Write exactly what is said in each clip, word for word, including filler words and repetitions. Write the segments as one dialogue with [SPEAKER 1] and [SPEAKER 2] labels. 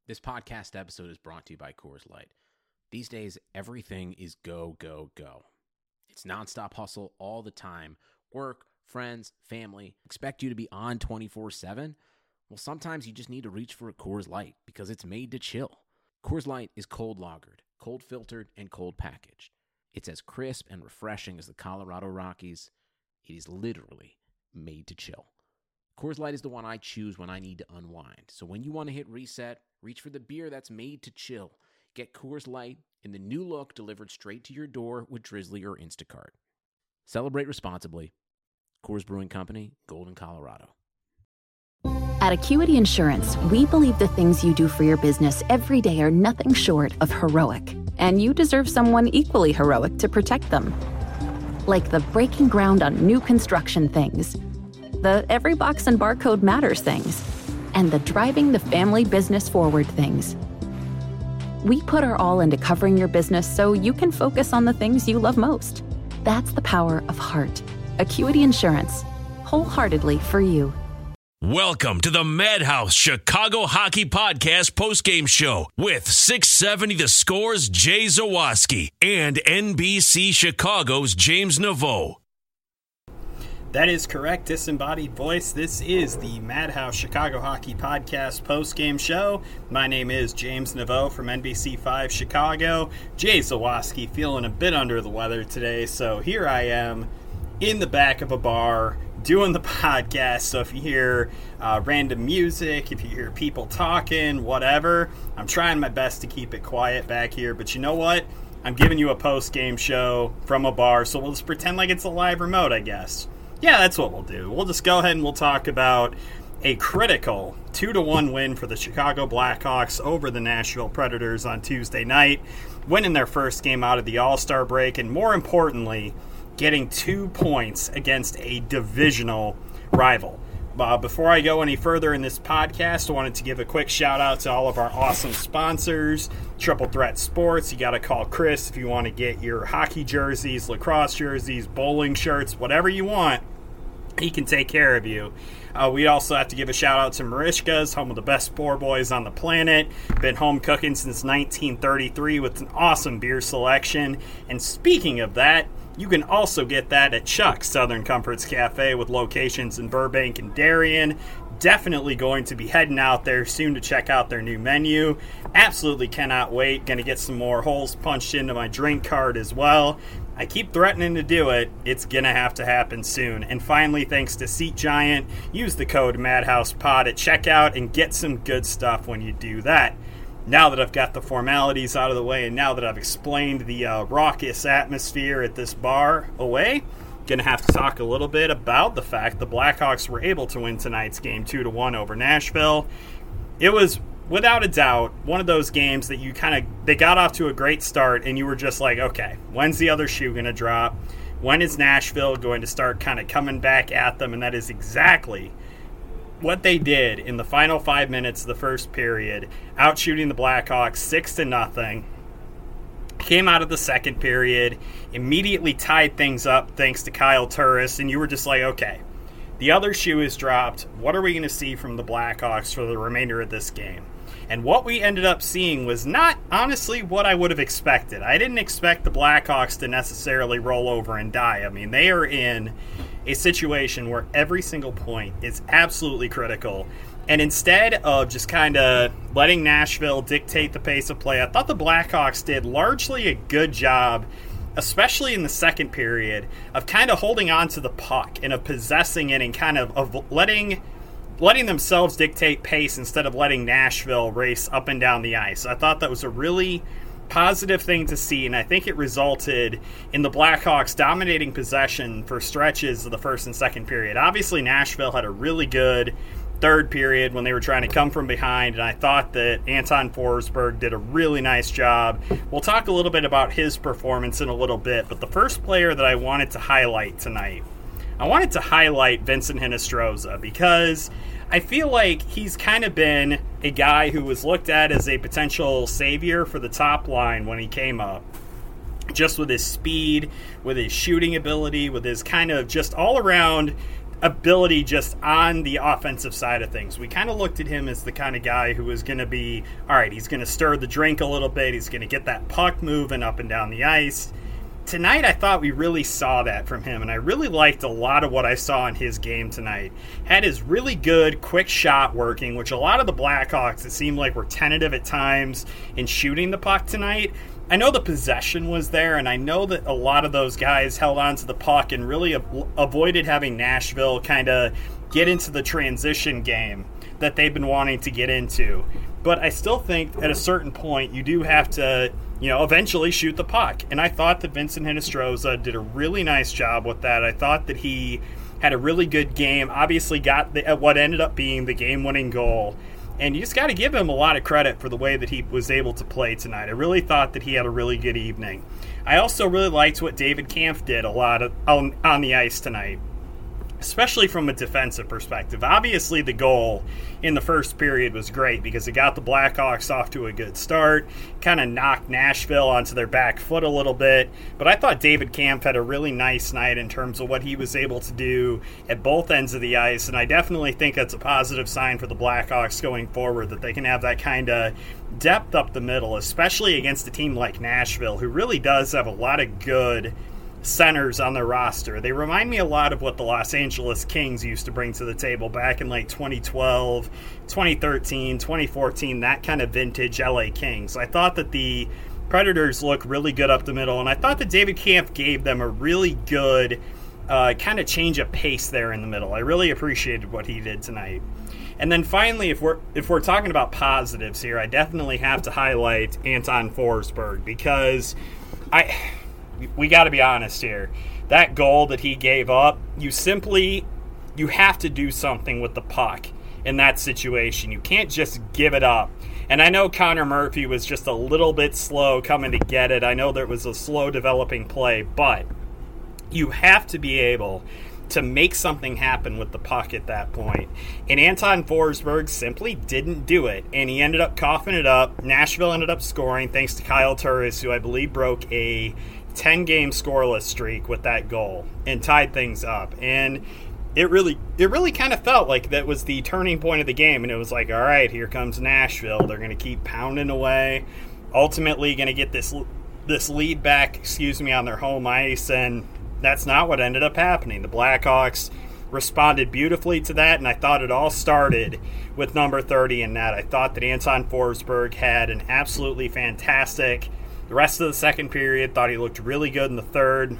[SPEAKER 1] This podcast episode is brought to you by Coors Light. These days, everything is go, go, go. It's nonstop hustle all the time. Work, friends, family, expect you to be on twenty-four seven. Well, sometimes you just need to reach for a Coors Light because it's made to chill. Coors Light is cold lagered, cold filtered, and cold packaged. It's as crisp and refreshing as the Colorado Rockies. It is literally made to chill. Coors Light is the one I choose when I need to unwind. So when you want to hit reset, reach for the beer that's made to chill. Get Coors Light in the new look delivered straight to your door with Drizzly or Instacart. Celebrate responsibly. Coors Brewing Company, Golden, Colorado.
[SPEAKER 2] At Acuity Insurance, we believe the things you do for your business every day are nothing short of heroic. And you deserve someone equally heroic to protect them. Like the breaking ground on new construction things, the every box and barcode matters things, and the driving the family business forward things. We put our all into covering your business so you can focus on the things you love most. That's the power of heart. Acuity Insurance, wholeheartedly for you.
[SPEAKER 3] Welcome to the Madhouse Chicago Hockey Podcast postgame show with six seventy The Score's Jay Zawaski and N B C Chicago's James Naveau.
[SPEAKER 4] That is correct, disembodied voice. This is the Madhouse Chicago Hockey Podcast postgame show. My name is James Naveau from N B C five Chicago. Jay Zawaski feeling a bit under the weather today, so here I am in the back of a bar doing the podcast. So if you hear uh, random music, if you hear people talking, whatever, I'm trying my best to keep it quiet back here. But you know what? I'm giving you a post-game show from a bar, so we'll just pretend like it's a live remote, I guess. Yeah, that's what we'll do. We'll just go ahead and we'll talk about a critical two to one win for the Chicago Blackhawks over the Nashville Predators on Tuesday night, winning their first game out of the All-Star break, and more importantly, getting two points against a divisional rival. Uh, before I go any further in this podcast, I wanted to give a quick shout out to all of our awesome sponsors. Triple Threat Sports, you got to call Chris if you want to get your hockey jerseys, lacrosse jerseys, bowling shirts, whatever you want. He can take care of you. Uh, we also have to give a shout out to Marishka's, home of the best poor boys on the planet. Been home cooking since nineteen thirty-three with an awesome beer selection. And speaking of that, you can also get that at Chuck's Southern Comforts Cafe with locations in Burbank and Darien. Definitely going to be heading out there soon to check out their new menu. Absolutely cannot wait. Going to get some more holes punched into my drink card as well. I keep threatening to do it. It's going to have to happen soon. And finally, thanks to Seat Giant, use the code MadhousePod at checkout and get some good stuff when you do that. Now that I've got the formalities out of the way and now that I've explained the uh, raucous atmosphere at this bar away, going to have to talk a little bit about the fact the Blackhawks were able to win tonight's game two to one over Nashville. It was, without a doubt, one of those games that you kind of, they got off to a great start and you were just like, okay, when's the other shoe going to drop? When is Nashville going to start kind of coming back at them? And that is exactly what they did in the final five minutes of the first period, outshooting the Blackhawks six to nothing. Came out of the second period, immediately tied things up thanks to Kyle Turris, and you were just like, okay, the other shoe is dropped. What are we going to see from the Blackhawks for the remainder of this game? And what we ended up seeing was not, honestly, what I would have expected. I didn't expect the Blackhawks to necessarily roll over and die. I mean, they are in a situation where every single point is absolutely critical. And instead of just kind of letting Nashville dictate the pace of play, I thought the Blackhawks did largely a good job, especially in the second period, of kind of holding on to the puck and of possessing it and kind of, of letting letting themselves dictate pace instead of letting Nashville race up and down the ice. I thought that was a really positive thing to see, and I think it resulted in the Blackhawks dominating possession for stretches of the first and second period. Obviously, Nashville had a really good third period when they were trying to come from behind, and I thought that Anton Forsberg did a really nice job. We'll talk a little bit about his performance in a little bit, but the first player that I wanted to highlight tonight, I wanted to highlight Vincent Hinostroza because I feel like he's kind of been a guy who was looked at as a potential savior for the top line when he came up. Just with his speed, with his shooting ability, with his kind of just all-around ability just on the offensive side of things. We kind of looked at him as the kind of guy who was going to be, all right, he's going to stir the drink a little bit. He's going to get that puck moving up and down the ice. Tonight, I thought we really saw that from him, and I really liked a lot of what I saw in his game tonight. Had his really good, quick shot working, which a lot of the Blackhawks, it seemed like, were tentative at times in shooting the puck tonight. I know the possession was there, and I know that a lot of those guys held on to the puck and really av- avoided having Nashville kind of get into the transition game that they've been wanting to get into. But I still think at a certain point you do have to, you know, eventually shoot the puck. And I thought that Vincent Hinostroza did a really nice job with that. I thought that he had a really good game, obviously got the, what ended up being the game-winning goal. And you just got to give him a lot of credit for the way that he was able to play tonight. I really thought that he had a really good evening. I also really liked what David Kampf did a lot of, on, on the ice tonight, especially from a defensive perspective. Obviously, the goal in the first period was great because it got the Blackhawks off to a good start, kind of knocked Nashville onto their back foot a little bit. But I thought David Kampf had a really nice night in terms of what he was able to do at both ends of the ice, and I definitely think that's a positive sign for the Blackhawks going forward, that they can have that kind of depth up the middle, especially against a team like Nashville, who really does have a lot of good centers on their roster. They remind me a lot of what the Los Angeles Kings used to bring to the table back in like twenty twelve, twenty thirteen, twenty fourteen, that kind of vintage L A Kings. I thought that the Predators look really good up the middle, and I thought that David Kampf gave them a really good uh, kind of change of pace there in the middle. I really appreciated what he did tonight. And then finally, if we're if we're talking about positives here, I definitely have to highlight Anton Forsberg, because I we got to be honest here. That goal that he gave up, you simply you have to do something with the puck in that situation. You can't just give it up. And I know Connor Murphy was just a little bit slow coming to get it. I know there was a slow developing play, but you have to be able to make something happen with the puck at that point. And Anton Forsberg simply didn't do it, and he ended up coughing it up. Nashville ended up scoring thanks to Kyle Turris, who I believe broke a ten-game scoreless streak with that goal and tied things up. And it really it really kind of felt like that was the turning point of the game, and it was like, all right, here comes Nashville. They're going to keep pounding away, ultimately going to get this this lead back, excuse me, on their home ice, and that's not what ended up happening. The Blackhawks responded beautifully to that, and I thought it all started with number thirty in net. I thought that Anton Forsberg had an absolutely fantastic the rest of the second period. Thought he looked really good in the third.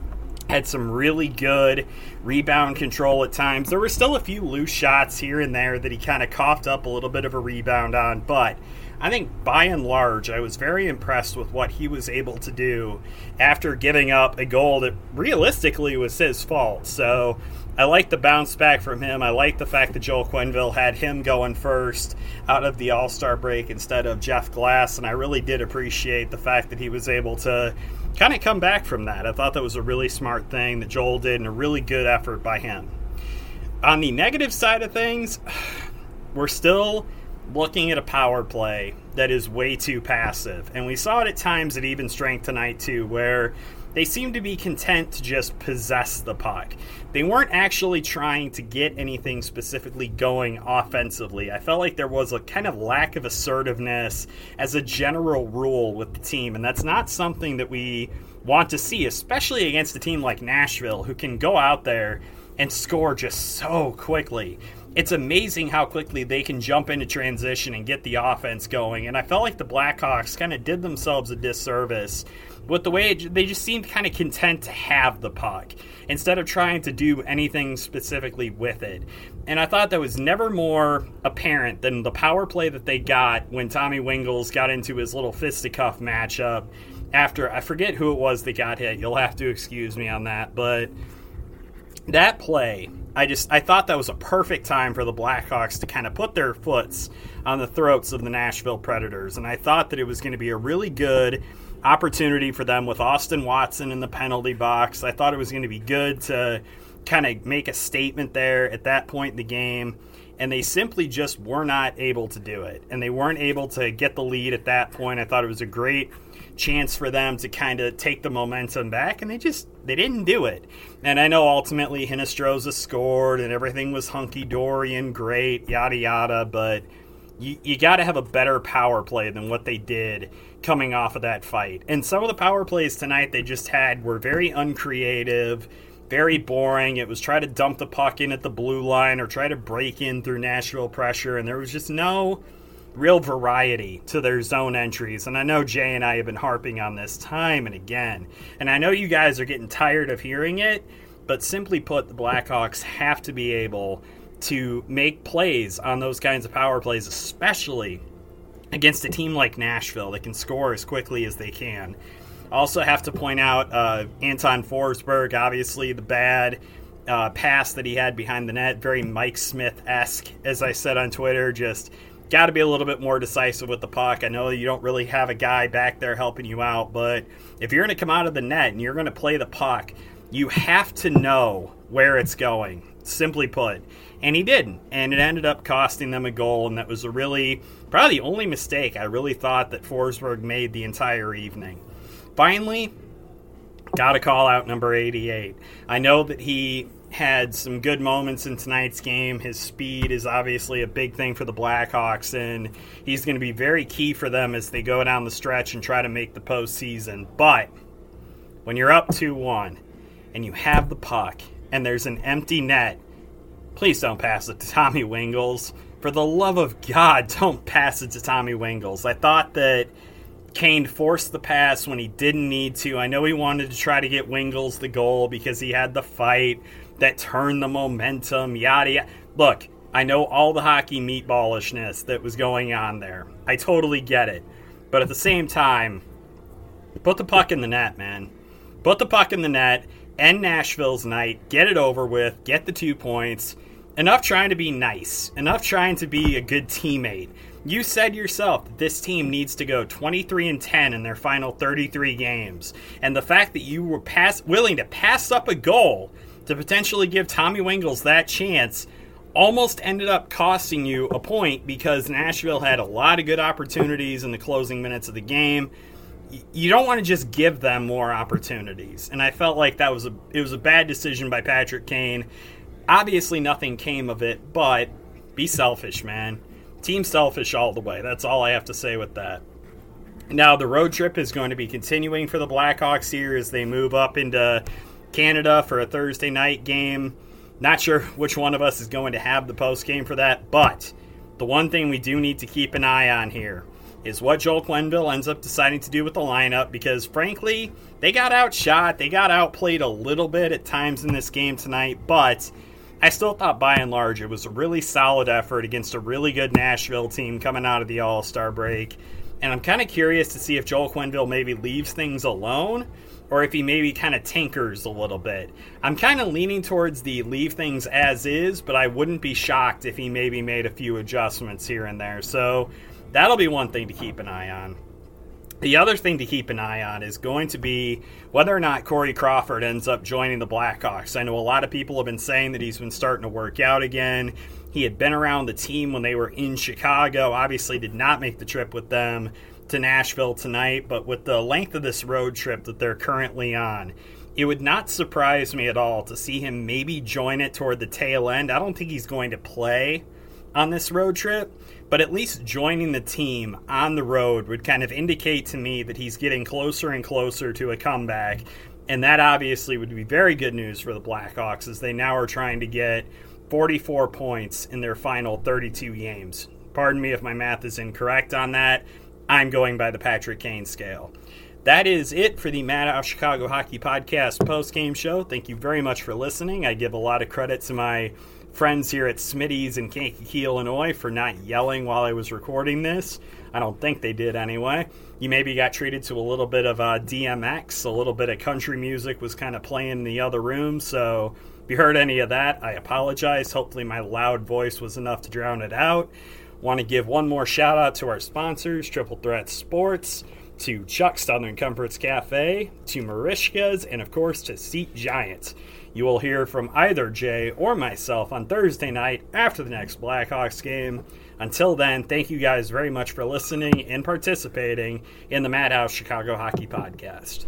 [SPEAKER 4] Had some really good rebound control at times. There were still a few loose shots here and there that he kind of coughed up a little bit of a rebound on, but I think by and large I was very impressed with what he was able to do after giving up a goal that realistically was his fault. So I like the bounce back from him. I like the fact that Joel Quenneville had him going first out of the All-Star break instead of Jeff Glass, and I really did appreciate the fact that he was able to kind of come back from that. I thought that was a really smart thing that Joel did, and a really good effort by him. On the negative side of things, we're still looking at a power play that is way too passive, and we saw it at times at even strength tonight too, where they seemed to be content to just possess the puck. They weren't actually trying to get anything specifically going offensively. I felt like there was a kind of lack of assertiveness as a general rule with the team, and that's not something that we want to see, especially against a team like Nashville, who can go out there and score just so quickly. It's amazing how quickly they can jump into transition and get the offense going, and I felt like the Blackhawks kind of did themselves a disservice with the way it, they just seemed kind of content to have the puck instead of trying to do anything specifically with it. And I thought that was never more apparent than the power play that they got when Tommy Wingels got into his little fisticuff matchup after, I forget who it was that got hit. You'll have to excuse me on that, but that play, I just I thought that was a perfect time for the Blackhawks to kind of put their foots on the throats of the Nashville Predators, and I thought that it was going to be a really good opportunity for them with Austin Watson in the penalty box. I thought it was going to be good to kind of make a statement there at that point in the game. and they simply just were not able to do it. And they weren't able to get the lead at that point. I thought it was a great chance for them to kind of take the momentum back, and they just they didn't do it. And I know ultimately Hinostroza scored and everything was hunky-dory and great, yada yada, but you, you got to have a better power play than what they did coming off of that fight. And some of the power plays tonight they just had were very uncreative, very boring. It was try to dump the puck in at the blue line or try to break in through Nashville pressure, and there was just no real variety to their zone entries. And I know Jay and I have been harping on this time and again, and I know you guys are getting tired of hearing it, but simply put, the Blackhawks have to be able to make plays on those kinds of power plays, especially against a team like Nashville that can score as quickly as they can. Also have to point out uh, Anton Forsberg, obviously the bad uh, pass that he had behind the net, very Mike Smith-esque, as I said on Twitter, just got to be a little bit more decisive with the puck. I know you don't really have a guy back there helping you out, but if you're going to come out of the net and you're going to play the puck, you have to know where it's going, simply put. And he didn't, and it ended up costing them a goal, and that was a really, probably the only mistake I really thought that Forsberg made the entire evening. Finally, got to call out number eighty-eight. I know that he had some good moments in tonight's game. His speed is obviously a big thing for the Blackhawks, and he's going to be very key for them as they go down the stretch and try to make the postseason. But when you're up two one and you have the puck and there's an empty net, please don't pass it to Tommy Wingels. For the love of God, don't pass it to Tommy Wingels. I thought that Kane forced the pass when he didn't need to. I know he wanted to try to get Wingels the goal because he had the fight that turned the momentum, yada yada. Look, I know all the hockey meatballishness that was going on there. I totally get it. But at the same time, put the puck in the net, man. Put the puck in the net, end Nashville's night, get it over with, get the two points. Enough trying to be nice. Enough trying to be a good teammate. You said yourself that this team needs to go twenty-three and ten in their final thirty-three games. And the fact that you were pass, willing to pass up a goal to potentially give Tommy Wingels that chance almost ended up costing you a point because Nashville had a lot of good opportunities in the closing minutes of the game. You don't want to just give them more opportunities. And I felt like that was a it was a bad decision by Patrick Kane. Obviously nothing came of it, but be selfish, man. Team selfish all the way. That's all I have to say with that. Now, the road trip is going to be continuing for the Blackhawks here as they move up into Canada for a Thursday night game. Not sure which one of us is going to have the post game for that, but the one thing we do need to keep an eye on here is what Joel Quenneville ends up deciding to do with the lineup, because frankly, they got outshot. They got outplayed a little bit at times in this game tonight, but I still thought by and large it was a really solid effort against a really good Nashville team coming out of the All-Star break. And I'm kind of curious to see if Joel Quenneville maybe leaves things alone or if he maybe kind of tinkers a little bit. I'm kind of leaning towards the leave things as is, but I wouldn't be shocked if he maybe made a few adjustments here and there. So that'll be one thing to keep an eye on. The other thing to keep an eye on is going to be whether or not Corey Crawford ends up joining the Blackhawks. I know a lot of people have been saying that he's been starting to work out again. He had been around the team when they were in Chicago. Obviously did not make the trip with them to Nashville tonight, but with the length of this road trip that they're currently on, it would not surprise me at all to see him maybe join it toward the tail end. I don't think he's going to play on this road trip, but at least joining the team on the road would kind of indicate to me that he's getting closer and closer to a comeback, and that obviously would be very good news for the Blackhawks as they now are trying to get forty-four points in their final thirty-two games. Pardon me if my math is incorrect on that. I'm going by the Patrick Kane scale. That is it for the Madhouse Chicago Hockey Podcast post-game show. Thank you very much for listening. I give a lot of credit to my friends here at Smitty's in Kankakee, Illinois for not yelling while I was recording this. I don't think they did anyway. You maybe got treated to a little bit of uh, D M X, a little bit of country music was kind of playing in the other room, so if you heard any of that, I apologize. Hopefully my loud voice was enough to drown it out. Want to give one more shout out to our sponsors, Triple Threat Sports, to Chuck Southern Comforts Cafe, to Marishka's, and of course to Seat Giants. You will hear from either Jay or myself on Thursday night after the next Blackhawks game. Until then, thank you guys very much for listening and participating in the Madhouse Chicago Hockey Podcast.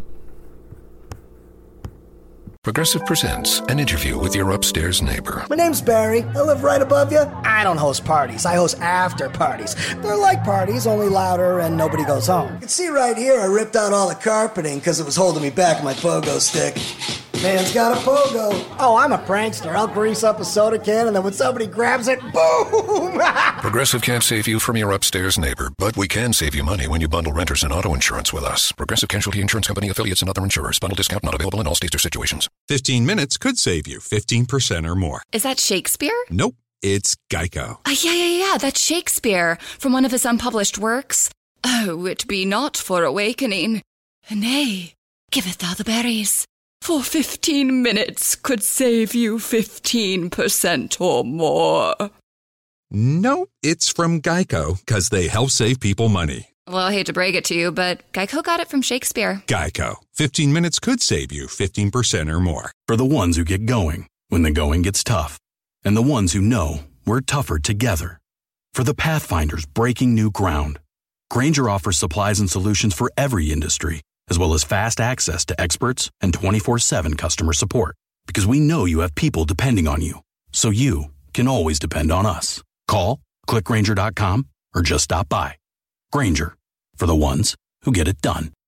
[SPEAKER 5] Progressive presents an interview with your upstairs neighbor.
[SPEAKER 6] My name's Barry. I live right above you. I don't host parties. I host after parties. They're like parties, only louder and nobody goes home. You can see right here I ripped out all the carpeting because it was holding me back with my pogo stick. Man's got a pogo. Oh, I'm a prankster. I'll grease up a soda can and then when somebody grabs it, boom!
[SPEAKER 5] Progressive can't save you from your upstairs neighbor, but we can save you money when you bundle renters and auto insurance with us. Progressive Casualty Insurance Company, affiliates, and other insurers. Bundle discount not available in all states or situations.
[SPEAKER 7] fifteen minutes could save you fifteen percent or more.
[SPEAKER 8] Is that Shakespeare?
[SPEAKER 7] Nope, it's Geico.
[SPEAKER 8] Uh, yeah, yeah, yeah, that's Shakespeare from one of his unpublished works. Oh, it be not for awakening. Nay, giveth thou the berries. For fifteen minutes could save you fifteen percent or more.
[SPEAKER 7] Nope, it's from Geico, because they help save people money.
[SPEAKER 8] Well, I hate to break it to you, but Geico got it from Shakespeare.
[SPEAKER 7] Geico. fifteen minutes could save you fifteen percent or more.
[SPEAKER 9] For the ones who get going when the going gets tough. And the ones who know we're tougher together. For the Pathfinders breaking new ground. Grainger offers supplies and solutions for every industry, as well as fast access to experts and twenty-four seven customer support. Because we know you have people depending on you. So you can always depend on us. Call, click Grainger dot com, or just stop by. Grainger, for the ones who get it done.